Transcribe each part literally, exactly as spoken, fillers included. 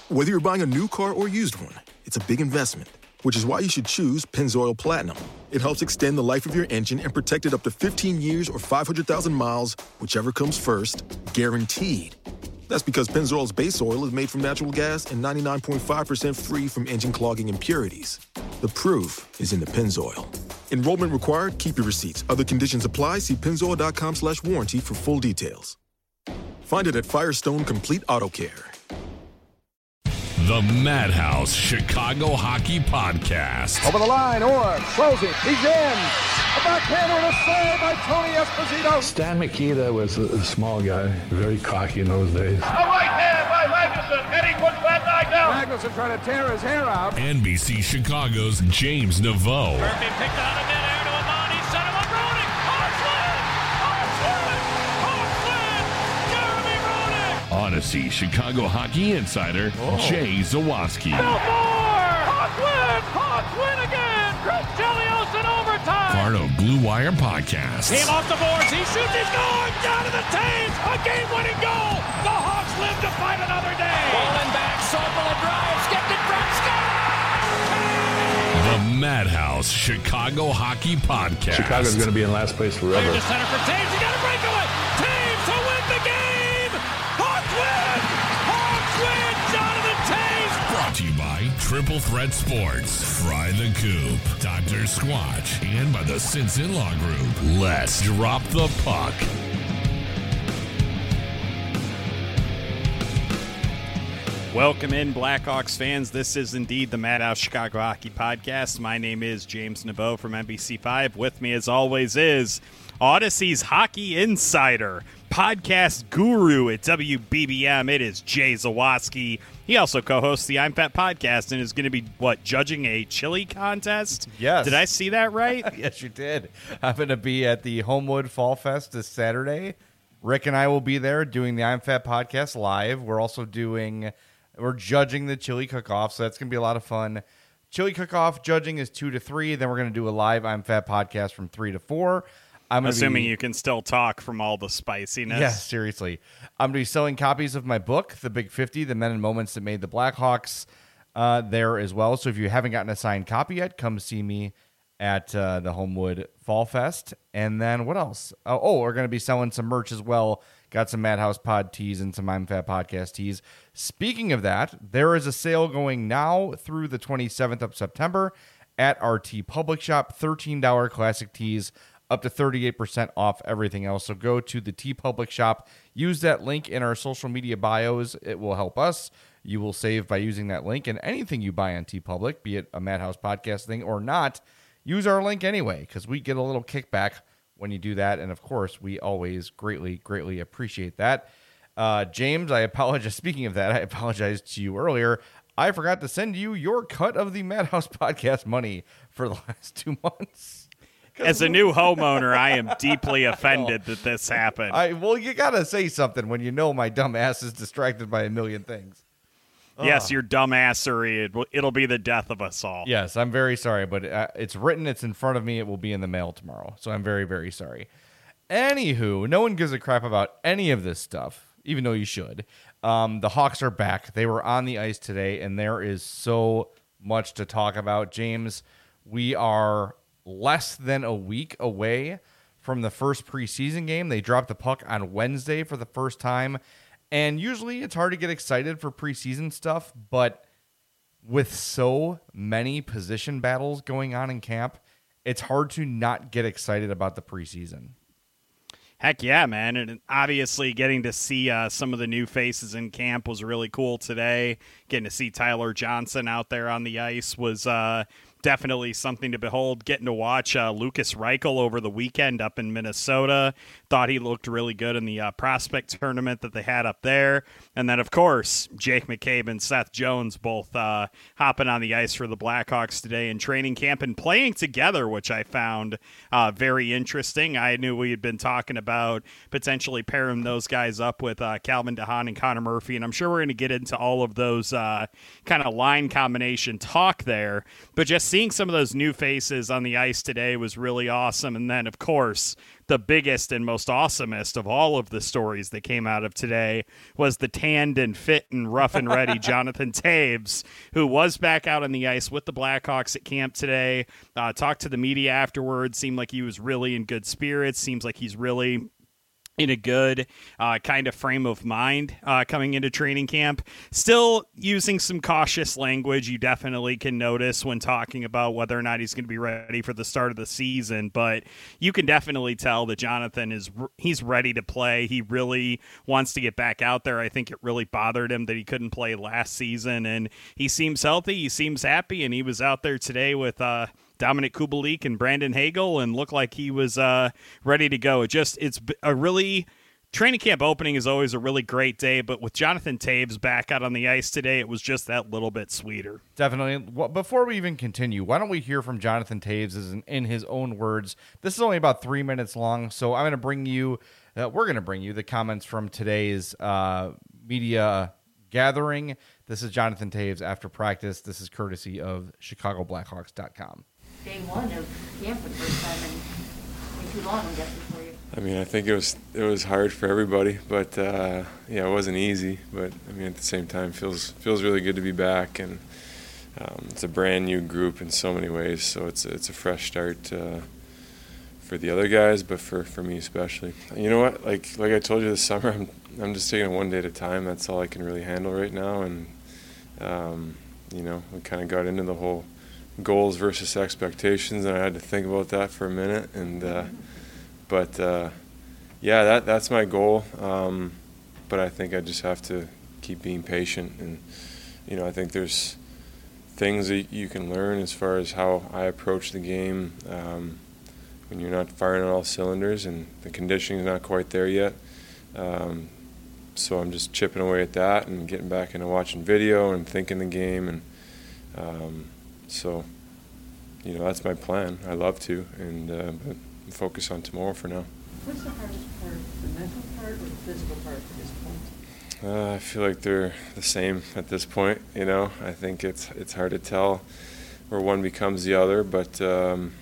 Whether you're buying a new car or used one, it's a big investment, which is why you should choose Pennzoil Platinum. It helps extend the life of your engine and protect it up to fifteen years or five hundred thousand miles, whichever comes first, guaranteed. That's because Pennzoil's base oil is made from natural gas and ninety-nine point five percent free from engine-clogging impurities. The proof is in the Pennzoil. Enrollment required. Keep your receipts. Other conditions apply. See pennzoil.com slash warranty for full details. Find it at Firestone Complete Auto Care. The Madhouse Chicago Hockey Podcast. Over the line, Orr, closing, he's in. A backhander and a save by Tony Esposito. Stan Mikita was a, a small guy, very cocky in those days. A right hand by Magnuson, and he puts that guy down. Magnuson trying to tear his hair out. N B C Chicago's James Naveau. Murphy picked out of midair to Amani, set him up, Roenick. Hartland! Hartland! Hartland! Jeremy Roenick! Odyssey Chicago Hockey Insider, oh. Jay Zawaski. Belfort! Hawks win! Hawks win again! Chris Chelios in overtime! Farno Blue Wire Podcast. Team off the boards, he shoots, he's going! Down to the Taves! A game-winning goal! The Hawks live to fight another day! Rolling back, Sorpel drives, gets it from Scott! The Madhouse Chicago Hockey Podcast. Chicago's going to be in last place forever. Clear to center for Taves, he got a breakaway! Taves to win the game! Hawks win! Hawks win! Jonathan Taves! Brought to you by Triple Threat Sports, Fry the Coop, Doctor Squatch, and by the Sinson Law Group. Let's drop the puck. Welcome in, Blackhawks fans. This is indeed the Madhouse Chicago Hockey Podcast. My name is James Naveau from N B C five. With me, as always, is Odyssey's Hockey Insider, podcast guru at W B B M. It is Jay Zawaski. He also co-hosts the I'm Fat podcast and is going to be, what, judging a chili contest? Yes. Did I see that right? Yes, you did. I'm going to be at the Homewood Fall Fest this Saturday. Rick and I will be there doing the I'm Fat podcast live. We're also doing... We're judging the chili cook-off, so that's going to be a lot of fun. Chili cook-off judging is two to three. Then we're going to do a live I'm Fat podcast from three to four. I'm assuming be, you can still talk from all the spiciness. Yeah, seriously. I'm going to be selling copies of my book, The Big fifty, The Men and Moments That Made the Blackhawks, uh, there as well. So if you haven't gotten a signed copy yet, come see me at uh, the Homewood Fall Fest. And then what else? Oh, oh we're going to be selling some merch as well. Got some Madhouse Pod tees and some I'm Fat podcast tees. Speaking of that, there is a sale going now through the twenty-seventh of September at our T Public Shop. thirteen dollars classic tees, up to thirty-eight percent off everything else. So go to the T Public Shop. Use that link in our social media bios. It will help us. You will save by using that link. And anything you buy on T Public, be it a Madhouse podcast thing or not, use our link anyway, because we get a little kickback when you do that. And of course, we always greatly, greatly appreciate that. Uh, James, I apologize. Speaking of that, I apologized to you earlier. I forgot to send you your cut of the Madhouse podcast money for the last two months. As a new homeowner, I am deeply offended that this happened. I Well, you got to say something when you know my dumb ass is distracted by a million things. Yes, Ugh. your dumbassery. It will, it'll be the death of us all. Yes, I'm very sorry, but uh, it's written. It's in front of me. It will be in the mail tomorrow. So I'm very, very sorry. Anywho, no one gives a crap about any of this stuff, even though you should. Um, the Hawks are back. They were on the ice today, and there is so much to talk about. James, we are less than a week away from the first preseason game. They dropped the puck on Wednesday for the first time. And usually it's hard to get excited for preseason stuff, but with so many position battles going on in camp, it's hard to not get excited about the preseason. Heck yeah, man. And obviously getting to see uh, some of the new faces in camp was really cool today. Getting to see Tyler Johnson out there on the ice was uh, definitely something to behold. Getting to watch uh, Lucas Reichel over the weekend up in Minnesota. Thought he looked really good in the uh, prospect tournament that they had up there. And then, of course, Jake McCabe and Seth Jones both uh, hopping on the ice for the Blackhawks today in training camp and playing together, which I found uh, very interesting. I knew we had been talking about potentially pairing those guys up with uh, Calvin DeHaan and Connor Murphy, and I'm sure we're going to get into all of those uh, kind of line combination talk there. But just seeing some of those new faces on the ice today was really awesome. And then, of course, the biggest and most awesomest of all of the stories that came out of today was the tanned and fit and rough and ready Jonathan Toews, who was back out on the ice with the Blackhawks at camp today. Uh, talked to the media afterwards. Seemed like he was really in good spirits. Seems like he's really in a good uh, kind of frame of mind uh, coming into training camp. Still using some cautious language you definitely can notice when talking about whether or not he's going to be ready for the start of the season, but you can definitely tell that Jonathan is he's ready to play. He really wants to get back out there. I think it really bothered him that he couldn't play last season, and he seems healthy, he seems happy, and he was out there today with uh Dominic Kubalik and Brandon Hagel and looked like he was uh, ready to go. It just, it's a really, training camp opening is always a really great day, but with Jonathan Toews back out on the ice today, it was just that little bit sweeter. Definitely. Well, before we even continue, why don't we hear from Jonathan Toews in, in his own words? This is only about three minutes long, so I'm going to bring you, uh, we're going to bring you the comments from today's uh, media gathering. This is Jonathan Toews after practice. This is courtesy of Chicago Blackhawks dot com. Day one of camp for the first time in, in too long, I'm guessing, for you. I mean, I think it was it was hard for everybody, but uh, yeah, it wasn't easy. But I mean, at the same time, feels feels really good to be back, and um, it's a brand new group in so many ways. So it's it's a fresh start uh, for the other guys, but for, for me especially. You know what? Like like I told you this summer, I'm I'm just taking it one day at a time. That's all I can really handle right now, and um, you know, we kind of got into the whole goals versus expectations, and I had to think about that for a minute. And uh, but uh, yeah, that that's my goal. Um, but I think I just have to keep being patient, and you know, I think there's things that you can learn as far as how I approach the game um, when you're not firing on all cylinders, and the conditioning's not quite there yet. Um, so I'm just chipping away at that and getting back into watching video and thinking the game, and um, So, you know, that's my plan. I love to, and uh, but focus on tomorrow for now. What's the hardest part, the mental part or the physical part at this point? Uh, I feel like they're the same at this point. You know, I think it's it's hard to tell where one becomes the other, but um,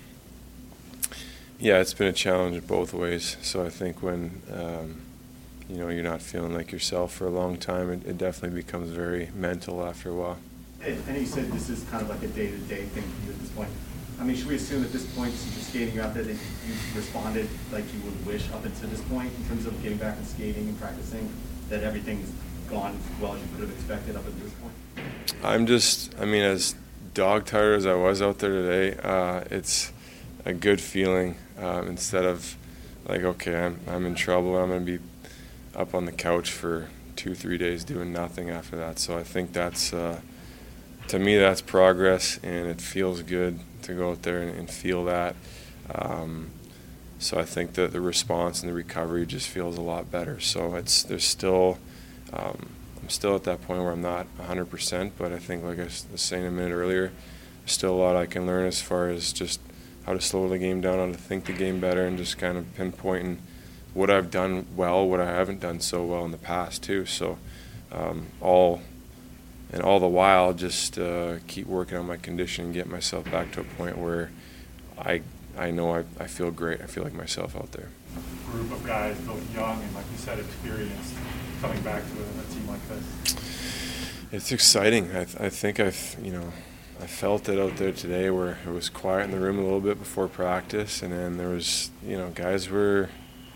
yeah, it's been a challenge in both ways. So I think when um, you know, you're not feeling like yourself for a long time, it, it definitely becomes very mental after a while. I know you said this is kind of like a day-to-day thing for you at this point. I mean, should we assume at this point, since you're skating out there, that you've responded like you would wish up until this point in terms of getting back and skating and practicing, that everything's gone as well as you could have expected up until this point? I'm just, I mean, as dog-tired as I was out there today, uh, it's a good feeling um, instead of like, okay, I'm, I'm in trouble, I'm going to be up on the couch for two, three days doing nothing after that. So I think that's... Uh, To me, that's progress, and it feels good to go out there and, and feel that. Um, so I think that the response and the recovery just feels a lot better. So it's there's still, um, I'm still at that point where I'm not one hundred percent, but I think, like I was saying a minute earlier, there's still a lot I can learn as far as just how to slow the game down, how to think the game better, and just kind of pinpointing what I've done well, what I haven't done so well in the past too. So um, all. And all the while, just uh, keep working on my condition and get myself back to a point where I I know I, I feel great. I feel like myself out there. A group of guys, both young and, like you said, experienced, coming back to a, a team like this. It's exciting. I, th- I think I've, you know, I felt it out there today where it was quiet in the room a little bit before practice, and then there was, you know, guys were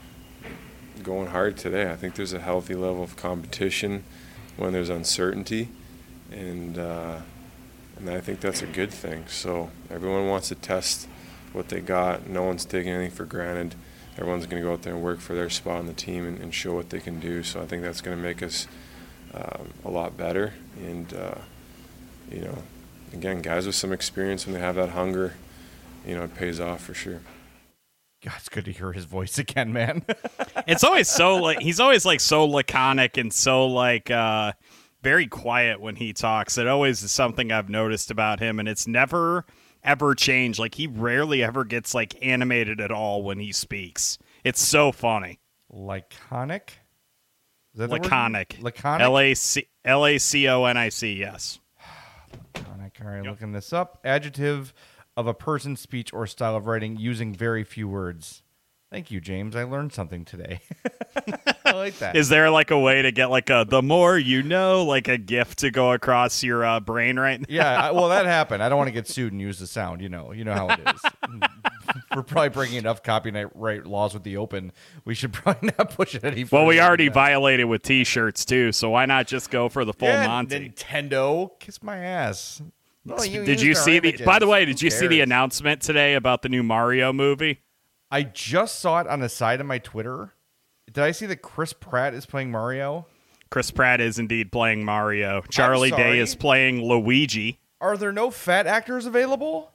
going hard today. I think there's a healthy level of competition when there's uncertainty. And uh, and I think that's a good thing. So everyone wants to test what they got. No one's taking anything for granted. Everyone's going to go out there and work for their spot on the team and, and show what they can do. So I think that's going to make us um, a lot better. And, uh, you know, again, guys with some experience, when they have that hunger, you know, it pays off for sure. God, it's good to hear his voice again, man. It's always so, like, he's always, like, so laconic and so, like, uh, very quiet when he talks. It always is something I've noticed about him, and it's never, ever changed. Like, he rarely ever gets, like, animated at all when he speaks. It's so funny. Laconic? Is that Laconic. Laconic? L A C L A C O N I C, yes. Laconic. All right, Yep. looking this up. Adjective of a person's speech or style of writing using very few words. Thank you, James. I learned something today. I like that. Is there like a way to get like a the more you know, like a GIF to go across your uh, brain right now? Yeah, I, well, that happened. I don't want to get sued and use the sound. You know, you know how it is. We're probably breaking enough copyright laws with the open. We should probably not push it any further. Well, we already violated with T-shirts too, so why not just go for the full yeah, Monty? Nintendo, kiss my ass. No, you did you used our see the? images. By the way, did Who you see the cares? announcement today about the new Mario movie? I just saw it on the side of my Twitter. Did I see that Chris Pratt is playing Mario? Chris Pratt is indeed playing Mario. Charlie sorry. Day is playing Luigi. Are there no fat actors available?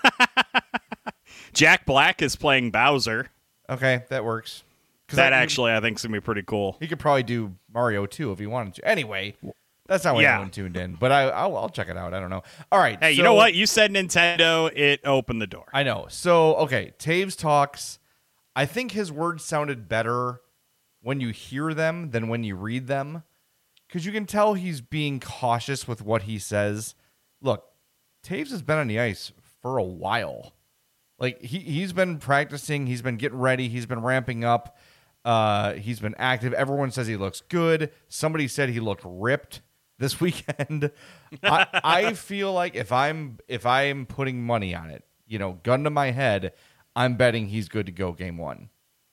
Jack Black is playing Bowser. Okay, that works. That I, actually, I think, is going to be pretty cool. He could probably do Mario too if he wanted to. Anyway, that's not why Yeah. anyone tuned in. But I, I'll, I'll check it out. I don't know. All right. Hey, you so- know what? You said Nintendo. It opened the door. I know. So, okay, Taves talks. I think his words sounded better when you hear them than when you read them, because you can tell he's being cautious with what he says. Look, Taves has been on the ice for a while. Like, he, he's been practicing. He's been getting ready. He's been ramping up. Uh, he's been active. Everyone says he looks good. Somebody said he looked ripped this weekend. I, I feel like if I'm if I'm putting money on it, you know, gun to my head, I'm betting he's good to go game one.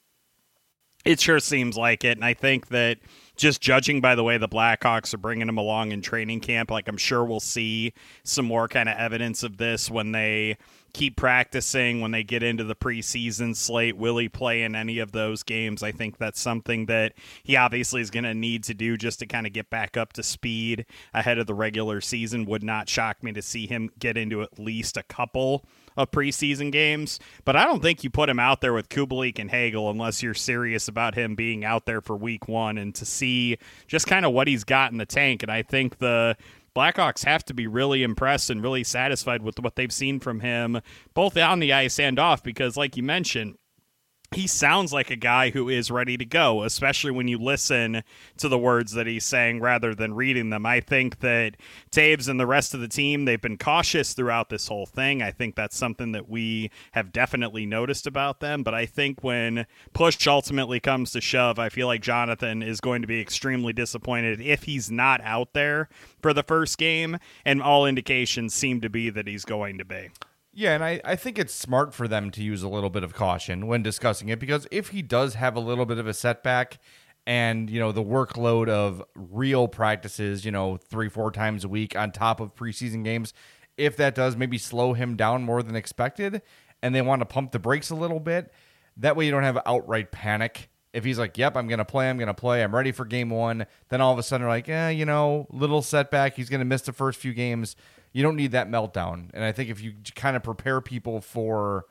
It sure seems like it, and I think that just judging by the way the Blackhawks are bringing him along in training camp, like I'm sure we'll see some more kind of evidence of this when they keep practicing, when they get into the preseason slate. Will he play in any of those games? I think that's something that he obviously is going to need to do just to kind of get back up to speed ahead of the regular season. Would not shock me to see him get into at least a couple of preseason games, but I don't think you put him out there with Kubalik and Hagel unless you're serious about him being out there for week one and to see just kind of what he's got in the tank. And I think the Blackhawks have to be really impressed and really satisfied with what they've seen from him, both on the ice and off, because like you mentioned, he sounds like a guy who is ready to go, especially when you listen to the words that he's saying rather than reading them. I think that Taves and the rest of the team, they've been cautious throughout this whole thing. I think that's something that we have definitely noticed about them. But I think when push ultimately comes to shove, I feel like Jonathan is going to be extremely disappointed if he's not out there for the first game. And all indications seem to be that he's going to be. Yeah, and I, I think it's smart for them to use a little bit of caution when discussing it, because if he does have a little bit of a setback and, you know, the workload of real practices, you know, three, four times a week on top of preseason games, if that does maybe slow him down more than expected and they want to pump the brakes a little bit, that way you don't have outright panic. If he's like, yep, I'm going to play, I'm going to play, I'm ready for game one, then all of a sudden they're like, eh, you know, little setback, he's going to miss the first few games. You don't need that meltdown. And I think if you kind of prepare people for,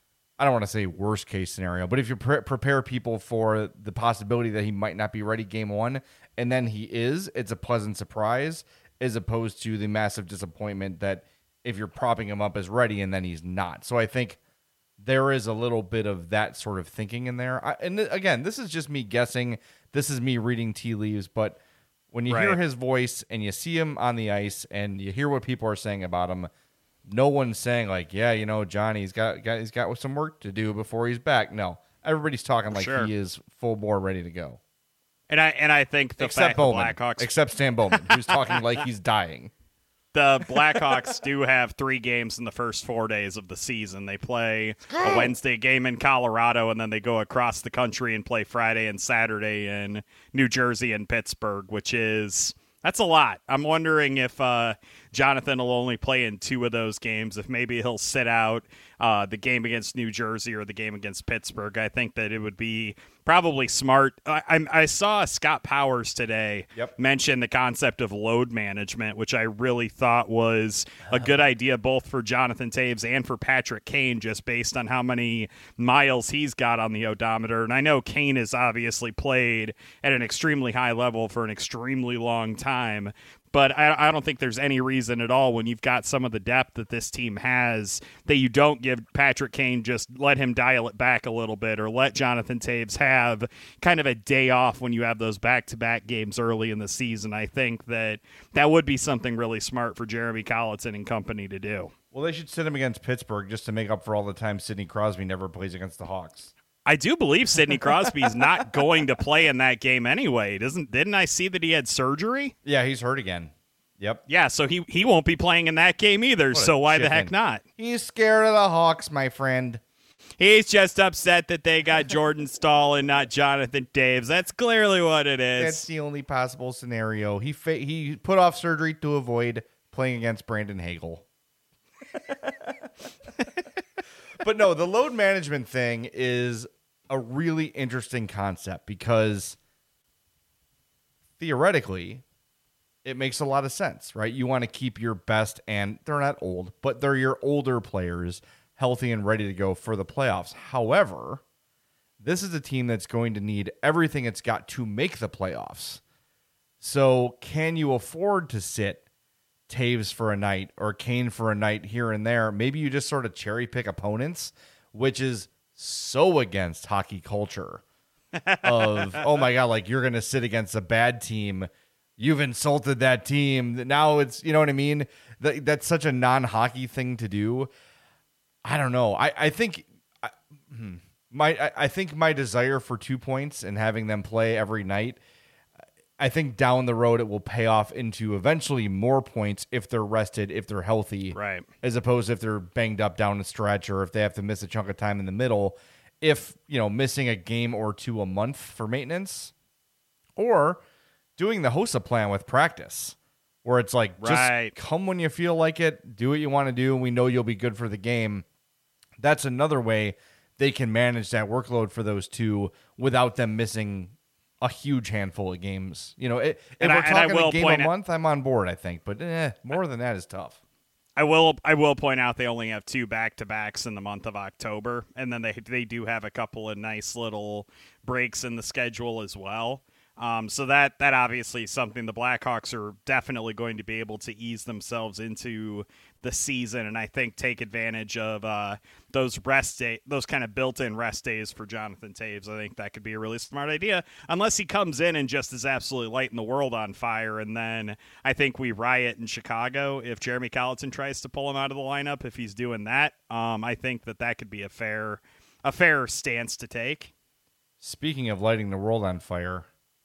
I don't want to say worst case scenario, but if you pre- prepare people for the possibility that he might not be ready game one, and then he is, it's a pleasant surprise, as opposed to the massive disappointment that if you're propping him up as ready and then he's not. So I think there is a little bit of that sort of thinking in there. I, and th- again, this is just me guessing. This is me reading tea leaves, but when you Right. hear his voice and you see him on the ice and you hear what people are saying about him, no one's saying like, yeah, you know, Johnny's got, got he's got some work to do before he's back. No, everybody's talking like Sure. he is full bore ready to go. And I and I think the Except fact Bowman, the Blackhawks except Stan Bowman, who's talking like he's dying. The Blackhawks do have three games in the first four days of the season. They play a Wednesday game in Colorado, and then they go across the country and play Friday and Saturday in New Jersey and Pittsburgh, which is that's a lot. I'm wondering if uh, Jonathan will only play in two of those games, if maybe he'll sit out uh, the game against New Jersey or the game against Pittsburgh. I think that it would be probably smart. I, I, I saw Scott Powers today Yep. mention the concept of load management, which I really thought was a good idea both for Jonathan Taves and for Patrick Kane, just based on how many miles he's got on the odometer. And I know Kane has obviously played at an extremely high level for an extremely long time, But I, I don't think there's any reason at all when you've got some of the depth that this team has that you don't give Patrick Kane, just let him dial it back a little bit, or let Jonathan Toews have kind of a day off when you have those back-to-back games early in the season. I think that that would be something really smart for Jeremy Colliton and company to do. Well, they should sit him against Pittsburgh just to make up for all the time Sidney Crosby never plays against the Hawks. I do believe Sidney Crosby's not going to play in that game anyway. Doesn't didn't I see that he had surgery? Yeah, he's hurt again. Yep. Yeah, so he he won't be playing in that game either. So why chicken. the heck not? He's scared of the Hawks, my friend. He's just upset that they got Jordan Staal and not Jonathan Toews. That's clearly what it is. That's the only possible scenario. He fa- he put off surgery to avoid playing against Brandon Hagel. But no, the load management thing is a really interesting concept because theoretically it makes a lot of sense, right? You want to keep your best, and they're not old, but they're your older players healthy and ready to go for the playoffs. However, this is a team that's going to need everything it's got to make the playoffs. So can you afford to sit Toews for a night or Kane for a night here and there? Maybe you just sort of cherry pick opponents, which is so against hockey culture of, oh my God, like you're going to sit against a bad team. You've insulted that team. Now it's, you know what I mean? That, that's such a non-hockey thing to do. I don't know. I, I think I, my, I, I think my desire for two points and having them play every night, I think down the road it will pay off into eventually more points if they're rested, if they're healthy, right? As opposed to if they're banged up down the stretch or if they have to miss a chunk of time in the middle. If, you know, missing a game or two a month for maintenance, or doing the Hossa plan with practice, where it's like, just right. come when you feel like it, do what you want to do, and we know you'll be good for the game. That's another way they can manage that workload for those two without them missing a huge handful of games. You know, it, if and we're I, talking a game a out, month, I'm on board, I think. But eh, more than that is tough. I will I will point out they only have two back-to-backs in the month of October, and then they they do have a couple of nice little breaks in the schedule as well. Um, so that that obviously is something the Blackhawks are definitely going to be able to ease themselves into the season, and I think take advantage of uh, those rest day, those kind of built-in rest days for Jonathan Toews. I think that could be a really smart idea, unless he comes in and just is absolutely lighting the world on fire, and then I think we riot in Chicago if Jeremy Colliton tries to pull him out of the lineup. If he's doing that, um, I think that that could be a fair a fair stance to take. Speaking of lighting the world on fire,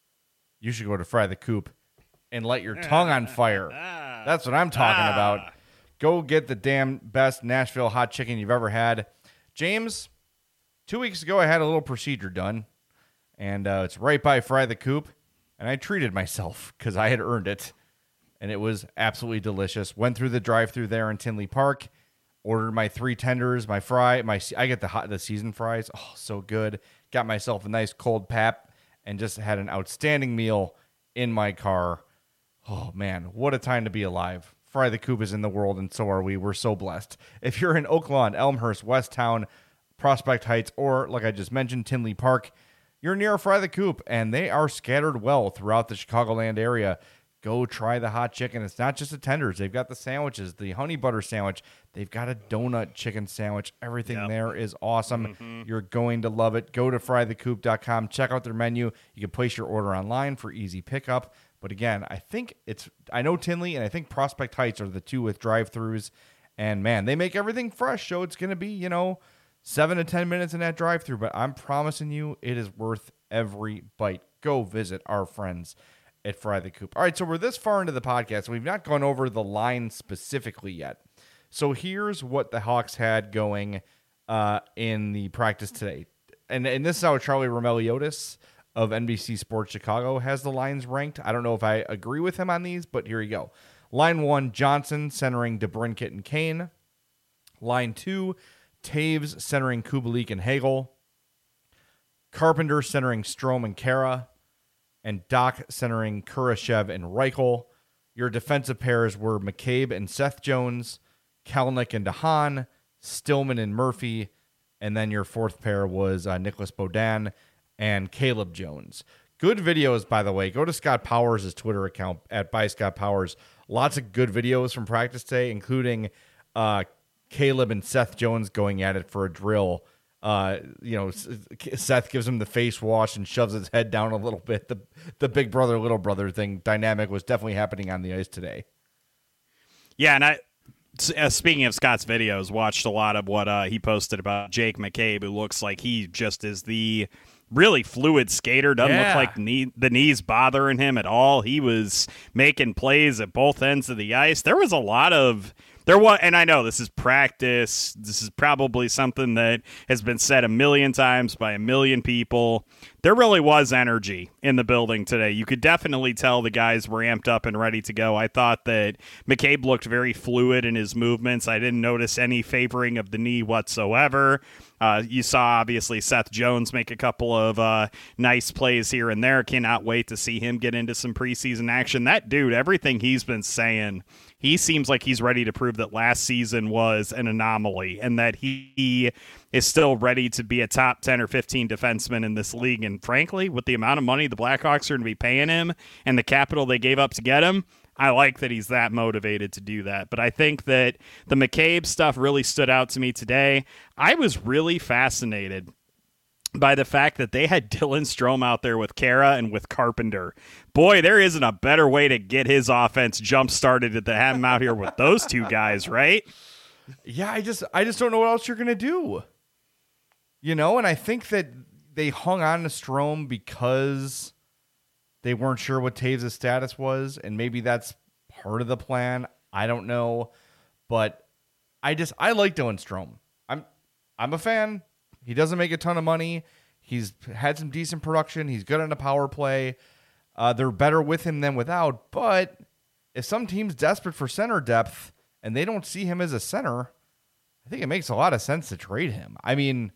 you should go to Fry the Coop and light your tongue on fire. That's what I'm talking ah. about. Go get the damn best Nashville hot chicken you've ever had. James, two weeks ago I had a little procedure done, and uh, it's right by Fry the Coop, and I treated myself because I had earned it, and it was absolutely delicious. Went through the drive-thru there in Tinley Park, ordered my three tenders, my fry, my I get the hot the seasoned fries. Oh, so good. Got myself a nice cold pap, and just had an outstanding meal in my car. Oh, man, what a time to be alive. Fry the Coop is in the world, and so are we. We're so blessed. If you're in Oak Lawn, Elmhurst, Westtown, Prospect Heights, or, like I just mentioned, Tinley Park, you're near Fry the Coop, and they are scattered well throughout the Chicagoland area. Go try the hot chicken. It's not just the tenders. They've got the sandwiches, the honey butter sandwich. They've got a donut chicken sandwich. Everything yep. there is awesome. Mm-hmm. You're going to love it. Go to fry the coop dot com. Check out their menu. You can place your order online for easy pickup. But again, I think it's, I know Tinley and I think Prospect Heights are the two with drive-thrus. And man, they make everything fresh. So it's going to be, you know, seven to ten minutes in that drive-thru. But I'm promising you, it is worth every bite. Go visit our friends at Fry the Coop. All right, so we're this far into the podcast. We've not gone over the line specifically yet. So here's what the Hawks had going uh, in the practice today. And, and this is how Charlie Roumeliotis of N B C Sports Chicago has the lines ranked. I don't know if I agree with him on these, but here you go. Line one, Johnson centering DeBrincat and Kane. Line two, Toews centering Kubalik and Hagel. Carpenter centering Strome and Kara. And Doc centering Kurashev and Reichel. Your defensive pairs were McCabe and Seth Jones, Kalnick and DeHaan, Stillman and Murphy, and then your fourth pair was uh, Nicholas Baudin and Caleb Jones. Good videos, by the way. Go to Scott Powers' Twitter account at by Scott Powers. Lots of good videos from practice today, including uh, Caleb and Seth Jones going at it for a drill. Uh, you know, Seth gives him the face wash and shoves his head down a little bit. The the big brother, little brother thing dynamic was definitely happening on the ice today. Yeah, and I, uh, speaking of Scott's videos, watched a lot of what uh, he posted about Jake McCabe, who looks like he just is the really fluid skater. Doesn't Yeah. look like knee, the knees bothering him at all. He was making plays at both ends of the ice. There was a lot of... There was, and I know this is practice. This is probably something that has been said a million times by a million people. There really was energy in the building today. You could definitely tell the guys were amped up and ready to go. I thought that McCabe looked very fluid in his movements. I didn't notice any favoring of the knee whatsoever. Uh, you saw, obviously, Seth Jones make a couple of uh, nice plays here and there. Cannot wait to see him get into some preseason action. That dude, everything he's been saying, he seems like he's ready to prove that last season was an anomaly and that he is still ready to be a top ten or fifteen defenseman in this league. And frankly, with the amount of money the Blackhawks are going to be paying him and the capital they gave up to get him, I like that he's that motivated to do that. But I think that the McCabe stuff really stood out to me today. I was really fascinated by the fact that they had Dylan Strome out there with Kara and with Carpenter. Boy, there isn't a better way to get his offense jump-started than to have him out here with those two guys, right? Yeah, I just I just don't know what else you're going to do. You know, and I think that they hung on to Strome because they weren't sure what Taves' status was, and maybe that's part of the plan. I don't know. But I just I like Dylan Strome. I'm I'm a fan. He doesn't make a ton of money. He's had some decent production. He's good on a power play. Uh, they're better with him than without. But if some team's desperate for center depth and they don't see him as a center, I think it makes a lot of sense to trade him. I mean,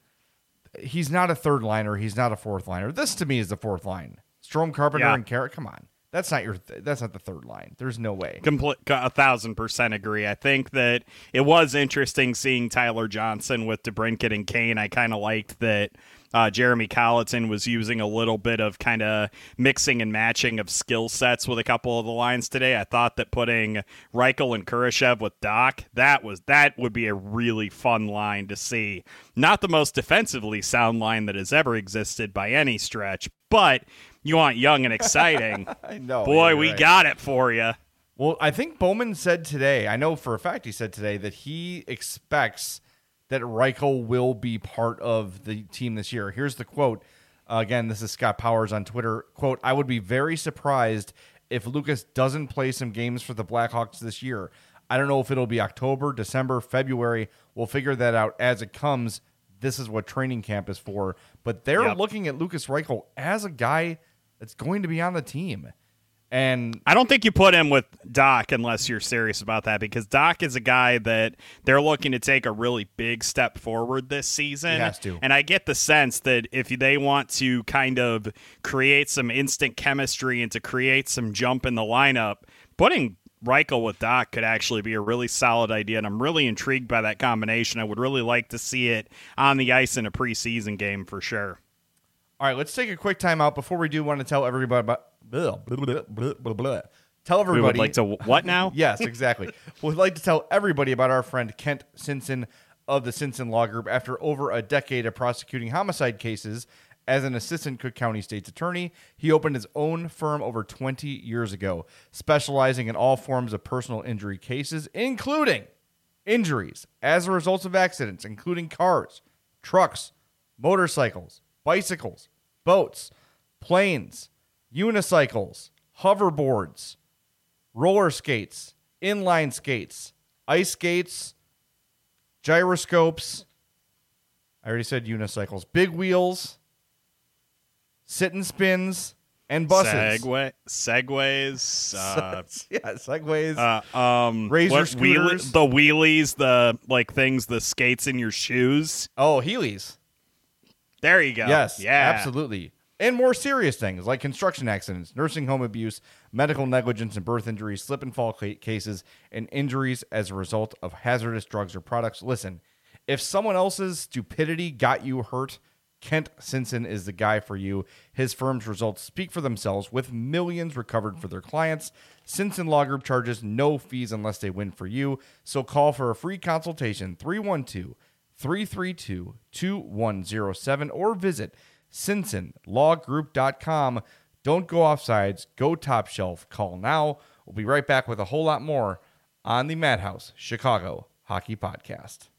he's not a third liner. He's not a fourth liner. This to me is the fourth line. Strome, Carpenter, Yeah. and Carrot. Come on. That's not your. Th- that's not the third line. There's no way. Complete, a thousand percent agree. I think that it was interesting seeing Tyler Johnson with DeBrincat and Kane. I kind of liked that uh, Jeremy Colleton was using a little bit of kind of mixing and matching of skill sets with a couple of the lines today. I thought that putting Reichel and Kurashev with Doc, that was that would be a really fun line to see. Not the most defensively sound line that has ever existed by any stretch, but you want young and exciting. I know. Boy, yeah, we right. got it for you. Well, I think Bowman said today, I know for a fact he said today, that he expects that Reichel will be part of the team this year. Here's the quote. Uh, again, this is Scott Powers on Twitter. Quote, "I would be very surprised if Lucas doesn't play some games for the Blackhawks this year. I don't know if it'll be October, December, February. We'll figure that out as it comes. This is what training camp is for." But they're Yep. looking at Lucas Reichel as a guy that's going to be on the team. And I don't think you put him with Doc unless you're serious about that, because Doc is a guy that they're looking to take a really big step forward this season. He has to. And I get the sense that if they want to kind of create some instant chemistry and to create some jump in the lineup, putting Reichel with Doc could actually be a really solid idea, and I'm really intrigued by that combination. I would really like to see it on the ice in a preseason game for sure. all right, let's take a quick time out. Before we do, want to tell everybody about blah, blah, blah, blah, blah, blah. Tell everybody. We would like to what now? Yes, exactly. We'd like to tell everybody about our friend Kent Simpson of the Simpson Law Group. After over a decade of prosecuting homicide cases as an assistant Cook County State's attorney, he opened his own firm over twenty years ago, specializing in all forms of personal injury cases, including injuries as a result of accidents, including cars, trucks, motorcycles, bicycles, boats, planes, unicycles, hoverboards, roller skates, inline skates, ice skates, gyroscopes. I already said unicycles, big wheels, sit and spins, and buses. Segway, segways, uh, yeah, segways, uh, um, razor what, scooters, wheelie, the wheelies, the like things, the skates in your shoes. Oh, Heelys. There you go. Yes, yeah, absolutely. And more serious things like construction accidents, nursing home abuse, medical negligence and birth injuries, slip and fall ca- cases, and injuries as a result of hazardous drugs or products. Listen, if someone else's stupidity got you hurt, Kent Sinson is the guy for you. His firm's results speak for themselves with millions recovered for their clients. Sinson Law Group charges no fees unless they win for you. So call for a free consultation, three one two, three three two, two one zero seven, or visit Sinson Law Group dot com. Don't go offsides. Go top shelf. Call now. We'll be right back with a whole lot more on the Madhouse Chicago Hockey Podcast.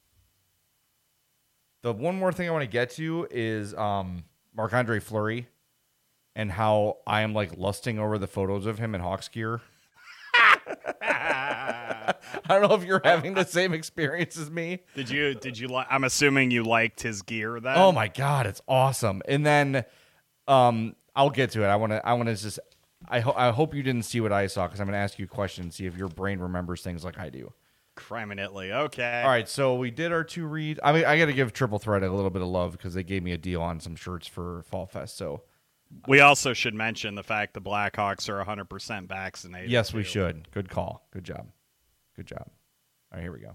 The one more thing I want to get to is um, Marc-Andre Fleury and how I am like lusting over the photos of him in Hawks gear. I don't know if you're having the same experience as me. Did you, did you like, I'm assuming you liked his gear then? Oh my God, it's awesome. And then um, I'll get to it. I want to, I want to just, I, ho- I hope you didn't see what I saw because I'm going to ask you a question and see if your brain remembers things like I do. Criminally. Okay. All right. So we did our two reads. I mean, I got to give Triple Threat a little bit of love because they gave me a deal on some shirts for Fall Fest. So we also should mention the fact the Blackhawks are one hundred percent vaccinated. Yes, we too. should. Good call. Good job. Good job. All right, here we go.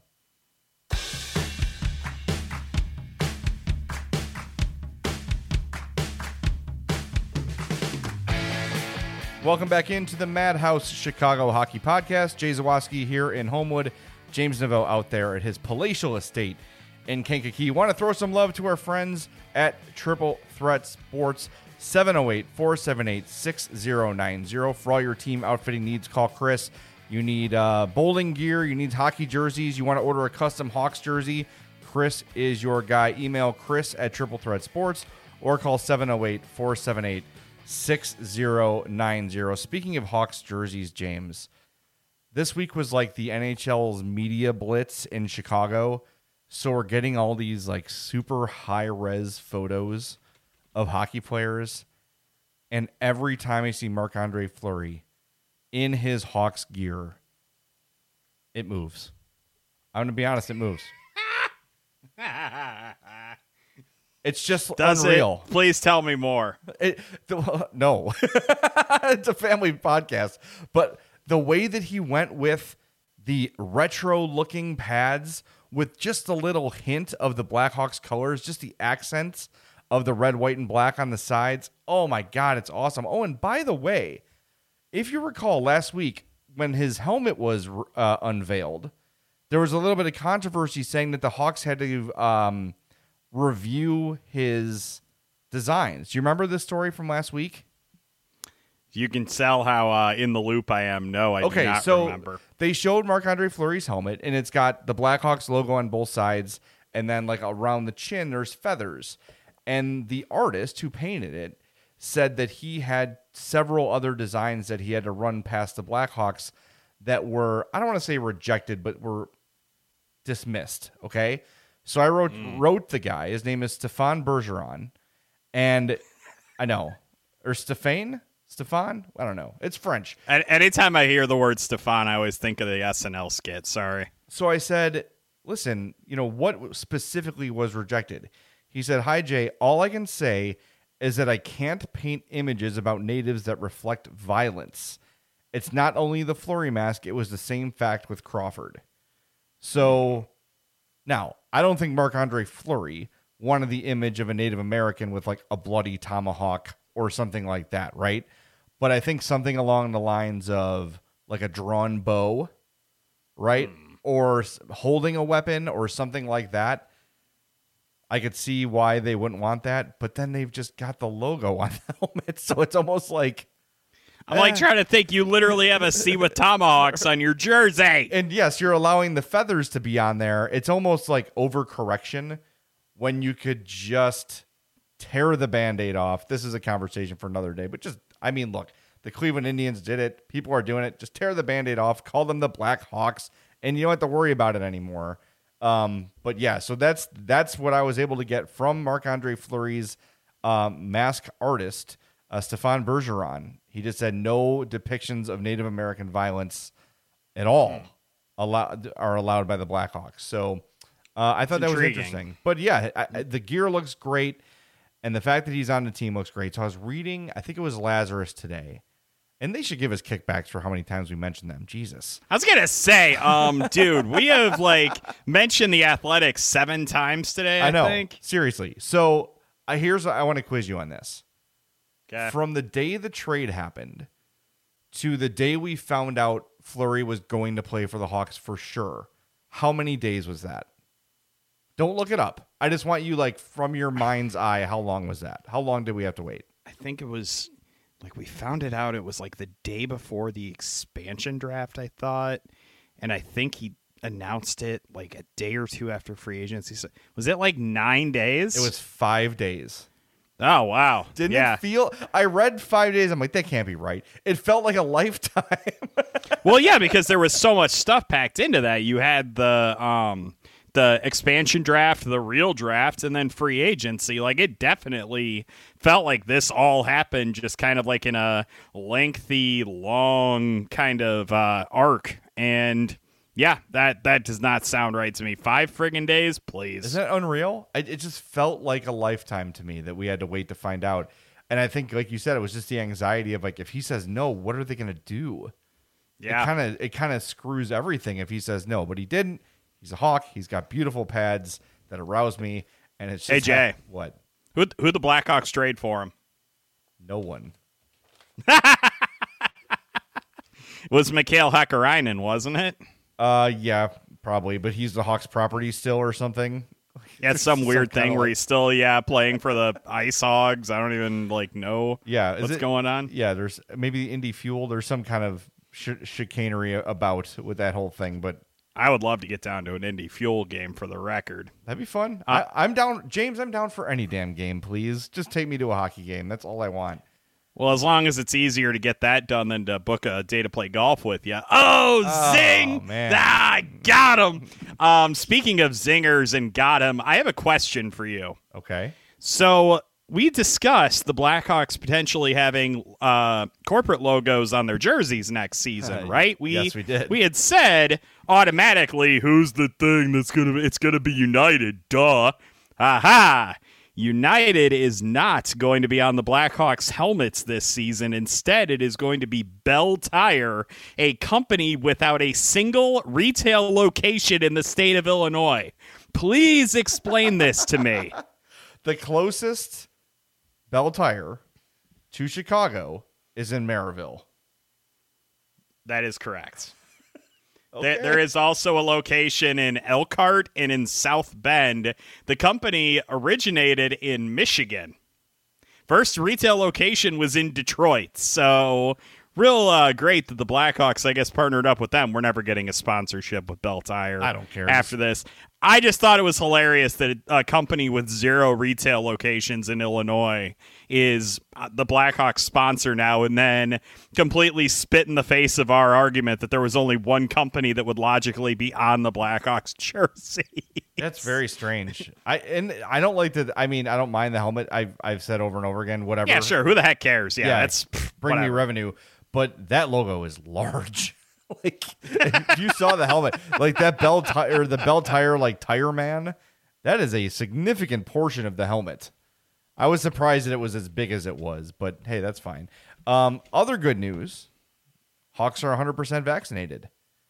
Welcome back into the Madhouse Chicago Hockey Podcast. Jay Zawaski here in Homewood. James Neveau out there at his palatial estate in Kankakee. Want to throw some love to our friends at Triple Threat Sports. seven oh eight, four seven eight, six oh nine oh. For all your team outfitting needs, call Chris. You need uh, bowling gear. You need hockey jerseys. You want to order a custom Hawks jersey. Chris is your guy. Email Chris at Triple Threat Sports or call seven oh eight, four seven eight, six oh nine oh. Speaking of Hawks jerseys, James, this week was like the N H L's media blitz in Chicago. So we're getting all these like super high-res photos of hockey players. And every time I see Marc-Andre Fleury in his Hawks gear, it moves. I'm going to be honest, it moves. It's just Does unreal. It? Please tell me more. It, the, no. It's a family podcast. But the way that he went with the retro-looking pads with just a little hint of the Blackhawks colors, just the accents of the red, white, and black on the sides. Oh, my God, it's awesome. Oh, and by the way, if you recall last week when his helmet was uh, unveiled, there was a little bit of controversy saying that the Hawks had to um, review his designs. Do you remember this story from last week? You can tell how uh, in the loop I am. No, I okay, do not so remember. They showed Marc-Andre Fleury's helmet, and it's got the Blackhawks logo on both sides, and then like around the chin, there's feathers. And the artist who painted it said that he had several other designs that he had to run past the Blackhawks that were, I don't want to say rejected, but were dismissed. Okay. So I wrote, mm. wrote the guy, his name is Stefan Bergeron, and I know, or Stéphane, Stefan. I don't know. It's French. And anytime I hear the word Stefan, I always think of the S N L skit. Sorry. So I said, listen, you know, what specifically was rejected? He said, hi, Jay, all I can say is that I can't paint images about natives that reflect violence. It's not only the Fleury mask, it was the same fact with Crawford. So now, I don't think Marc-Andre Fleury wanted the image of a Native American with like a bloody tomahawk or something like that, right? But I think something along the lines of like a drawn bow, right? Mm. Or holding a weapon or something like that. I could see why they wouldn't want that, but then they've just got the logo on the helmet, so it's almost like... I'm eh. like trying to think you literally have a C with tomahawks on your jersey. And yes, you're allowing the feathers to be on there. It's almost like overcorrection when you could just tear the Band-Aid off. This is a conversation for another day, but just, I mean, look, the Cleveland Indians did it. People are doing it. Just tear the Band-Aid off, call them the Blackhawks, and you don't have to worry about it anymore. Um, but yeah, so that's that's what I was able to get from Marc-Andre Fleury's um, mask artist, uh, Stefan Bergeron. He just said no depictions of Native American violence at all allowed are allowed by the Blackhawks. So uh, I thought that was interesting. But yeah, I, I, the gear looks great, and the fact that he's on the team looks great. So I was reading, I think it was Lazarus today. And they should give us kickbacks for how many times we mentioned them. Jesus. I was going to say, um, dude, we have like mentioned the Athletics seven times today, I, I know. think. Seriously. So I here's I want to quiz you on this. Okay. From the day the trade happened to the day we found out Fleury was going to play for the Hawks for sure, how many days was that? Don't look it up. I just want you, like, from your mind's eye, how long was that? How long did we have to wait? I think it was, like, we found it out. It was, like, the day before the expansion draft, I thought. And I think he announced it, like, a day or two after free agency. So, was it, like, nine days? It was five days. Oh, wow. Didn't yeah. it feel... I read five days. I'm like, that can't be right. It felt like a lifetime. Well, yeah, because there was so much stuff packed into that. You had the um, the expansion draft, the real draft, and then free agency. Like, it definitely felt like this all happened just kind of like in a lengthy, long kind of uh, arc. And... yeah, that, that does not sound right to me. Five friggin' days, please. Isn't that unreal? I, it just felt like a lifetime to me that we had to wait to find out. And I think, like you said, it was just the anxiety of, like, if he says no, what are they going to do? Yeah. It kind of it kind of screws everything if he says no. But he didn't. He's a Hawk. He's got beautiful pads that arouse me. And it's just... Hey, Jay. Ha- what? Who who'd the Blackhawks trade for him? No one. Was Mikhail Hakkarainen, wasn't it? Uh, yeah, probably, but he's the Hawks property still or something. Yeah, it's some weird some thing where like... he's still, yeah, playing for the Ice Hogs. I don't even, like, know yeah, what's it... going on. Yeah, there's maybe the Indy Fuel. There's some kind of sh- chicanery about with that whole thing, but... I would love to get down to an Indy Fuel game for the record. That'd be fun. Uh, I, I'm down, James, I'm down for any damn game, please. Just take me to a hockey game. That's all I want. Well, as long as it's easier to get that done than to book a day to play golf with you. Oh, oh zing! Man. Ah, got him. Um, speaking of zingers and got him, I have a question for you. Okay. So we discussed the Blackhawks potentially having uh, corporate logos on their jerseys next season, Uh, right? We, yes, we did. We had said automatically, who's the thing that's gonna? It's gonna be United. Duh. Aha. United is not going to be on the Blackhawks helmets this season. Instead, it is going to be Bell Tire, a company without a single retail location in the state of Illinois. Please explain this to me. The closest Bell Tire to Chicago is in Maryville. That is correct. Okay. There, there is also a location in Elkhart and in South Bend. The company originated in Michigan. First retail location was in Detroit. So real uh, great that the Blackhawks, I guess, partnered up with them. We're never getting a sponsorship with Bell Tire. I don't care. After this. I just thought it was hilarious that a company with zero retail locations in Illinois is the Blackhawks sponsor now, and then completely spit in the face of our argument that there was only one company that would logically be on the Blackhawks jersey. That's very strange. I and I don't like the. I mean, I don't mind the helmet. I've I've said over and over again. Whatever. Yeah, sure. Who the heck cares? Yeah, Yeah, that's bring whatever. me revenue. But that logo is large. Like, if you saw the helmet, like that Bell Tire, the Bell Tire, like Tire Man, that is a significant portion of the helmet. I was surprised that it was as big as it was, but hey, that's fine. Um, other good news: Hawks are one hundred percent vaccinated.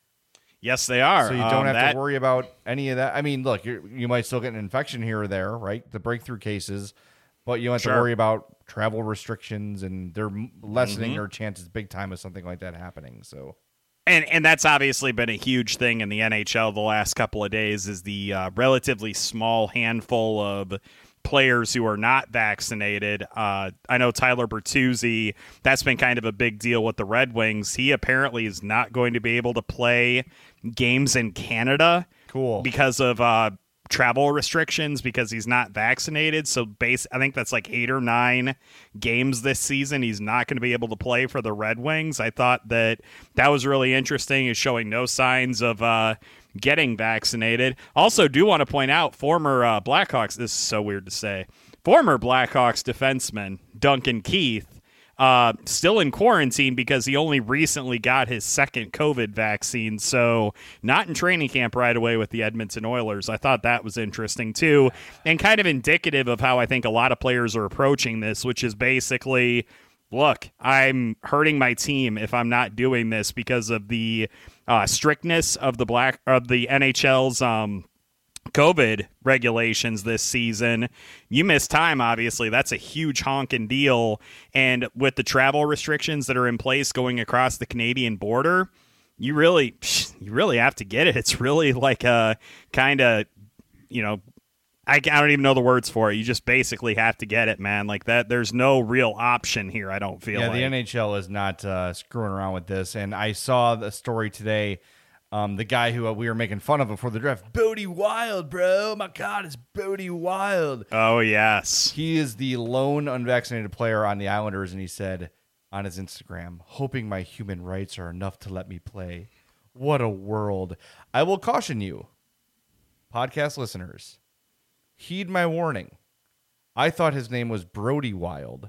Yes, they are. So you don't um, have that, to worry about any of that. I mean, look, you're, you might still get an infection here or there, right? The breakthrough cases, but you don't have Sure. to worry about travel restrictions, and they're lessening Mhm. their chances big time of something like that happening. So. And and that's obviously been a huge thing in the N H L the last couple of days is the uh, relatively small handful of players who are not vaccinated. Uh, I know Tyler Bertuzzi, that's been kind of a big deal with the Red Wings. He apparently is not going to be able to play games in Canada. Cool. Because of uh, travel restrictions because he's not vaccinated. So base, I think that's like eight or nine games this season. He's not going to be able to play for the Red Wings. I thought that that was really interesting. Is showing no signs of uh, getting vaccinated. Also, do want to point out former uh, Blackhawks. This is so weird to say. Former Blackhawks defenseman Duncan Keith. Uh, still in quarantine because he only recently got his second COVID vaccine, so not in training camp right away with the Edmonton Oilers. I thought that was interesting too, and kind of indicative of how I think a lot of players are approaching this, which is basically, look, I'm hurting my team if I'm not doing this because of the uh, strictness of the black of the N H L's um, COVID regulations this season. You miss time, obviously. That's a huge honking deal. And with the travel restrictions that are in place going across the Canadian border, you really, you really have to get it. It's really like a kind of, you know, I, I don't even know the words for it. You just basically have to get it, man. Like that, there's no real option here, I don't feel yeah, like. the N H L is not uh, screwing around with this. And I saw the story today. Um, the guy who uh, we were making fun of before the draft, Bodie Wild, bro. Oh my God, it's Bodie Wild. Oh, yes. He is the lone unvaccinated player on the Islanders, and he said on his Instagram, hoping my human rights are enough to let me play. What a world. I will caution you, podcast listeners, heed my warning. I thought his name was Brody Wild.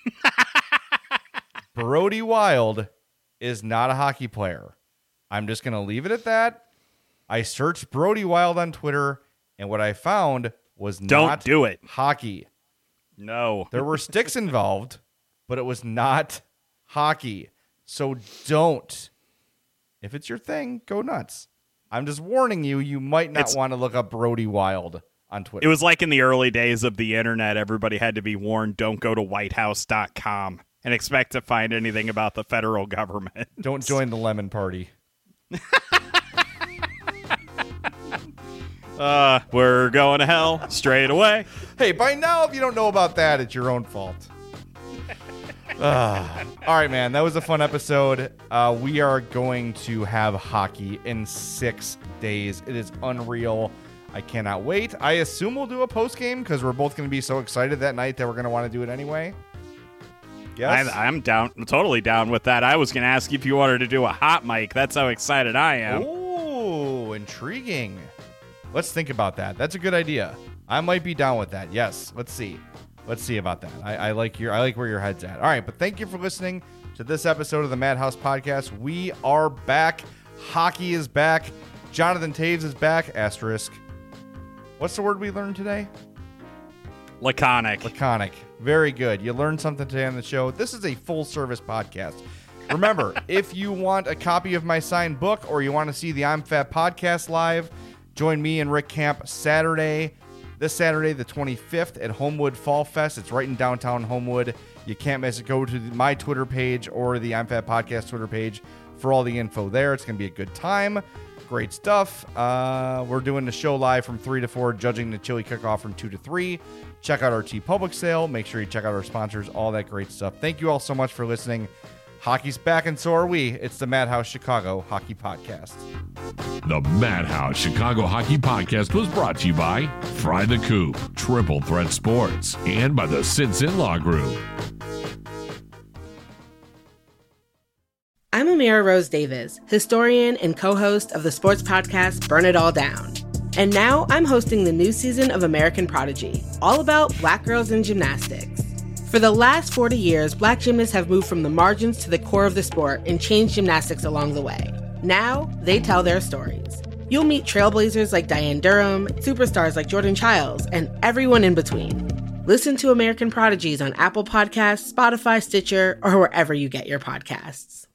Brody Wild is not a hockey player. I'm just going to leave it at that. I searched Brody Wild on Twitter, and what I found was Don't not do it. hockey. No. There were sticks involved, but it was not hockey. So don't. If it's your thing, go nuts. I'm just warning you, you might not It's- want to look up Brody Wild on Twitter. It was like in the early days of the internet, everybody had to be warned, don't go to white house dot com and expect to find anything about the federal government. Don't join the lemon party. uh, we're going to hell straight away. Hey, by now, if you don't know about that, it's your own fault. uh, all right, man. That was a fun episode. Uh, we are going to have hockey in six days. It is unreal. I cannot wait. I assume we'll do a post game because we're both going to be so excited that night that we're going to want to do it anyway. Yes? I, I'm down, totally down with that. I was going to ask you if you wanted to do a hot mic. That's how excited I am. Ooh, intriguing. Let's think about that. That's a good idea. I might be down with that. Yes. Let's see. Let's see about that. I, I like your. I like where your head's at. All right, but thank you for listening to this episode of the Madhouse Podcast. We are back. Hockey is back. Jonathan Toews is back. Asterisk. What's the word we learned today? Laconic. Laconic. Very good. You learned something today on the show. This is a full-service podcast. Remember, if you want a copy of my signed book or you want to see the I'm Fat podcast live, join me and Rick Camp Saturday, this Saturday, the twenty-fifth at Homewood Fall Fest. It's right in downtown Homewood. You can't miss it. Go to my Twitter page or the I'm Fat podcast Twitter page for all the info there. It's going to be a good time. Great stuff. Uh, we're doing the show live from three to four, judging the chili cook-off from two to three. Check out our TeePublic sale. Make sure you check out our sponsors, all that great stuff. Thank you all so much for listening. Hockey's back, and so are we. It's the Madhouse Chicago Hockey Podcast. The Madhouse Chicago Hockey Podcast was brought to you by Fry the Coop, Triple Threat Sports, and by the Sinson Law Group. I'm Amira Rose Davis, historian and co-host of the sports podcast Burn It All Down. And now I'm hosting the new season of American Prodigy, all about Black girls in gymnastics. For the last forty years, Black gymnasts have moved from the margins to the core of the sport and changed gymnastics along the way. Now, they tell their stories. You'll meet trailblazers like Diane Durham, superstars like Jordan Childs, and everyone in between. Listen to American Prodigies on Apple Podcasts, Spotify, Stitcher, or wherever you get your podcasts.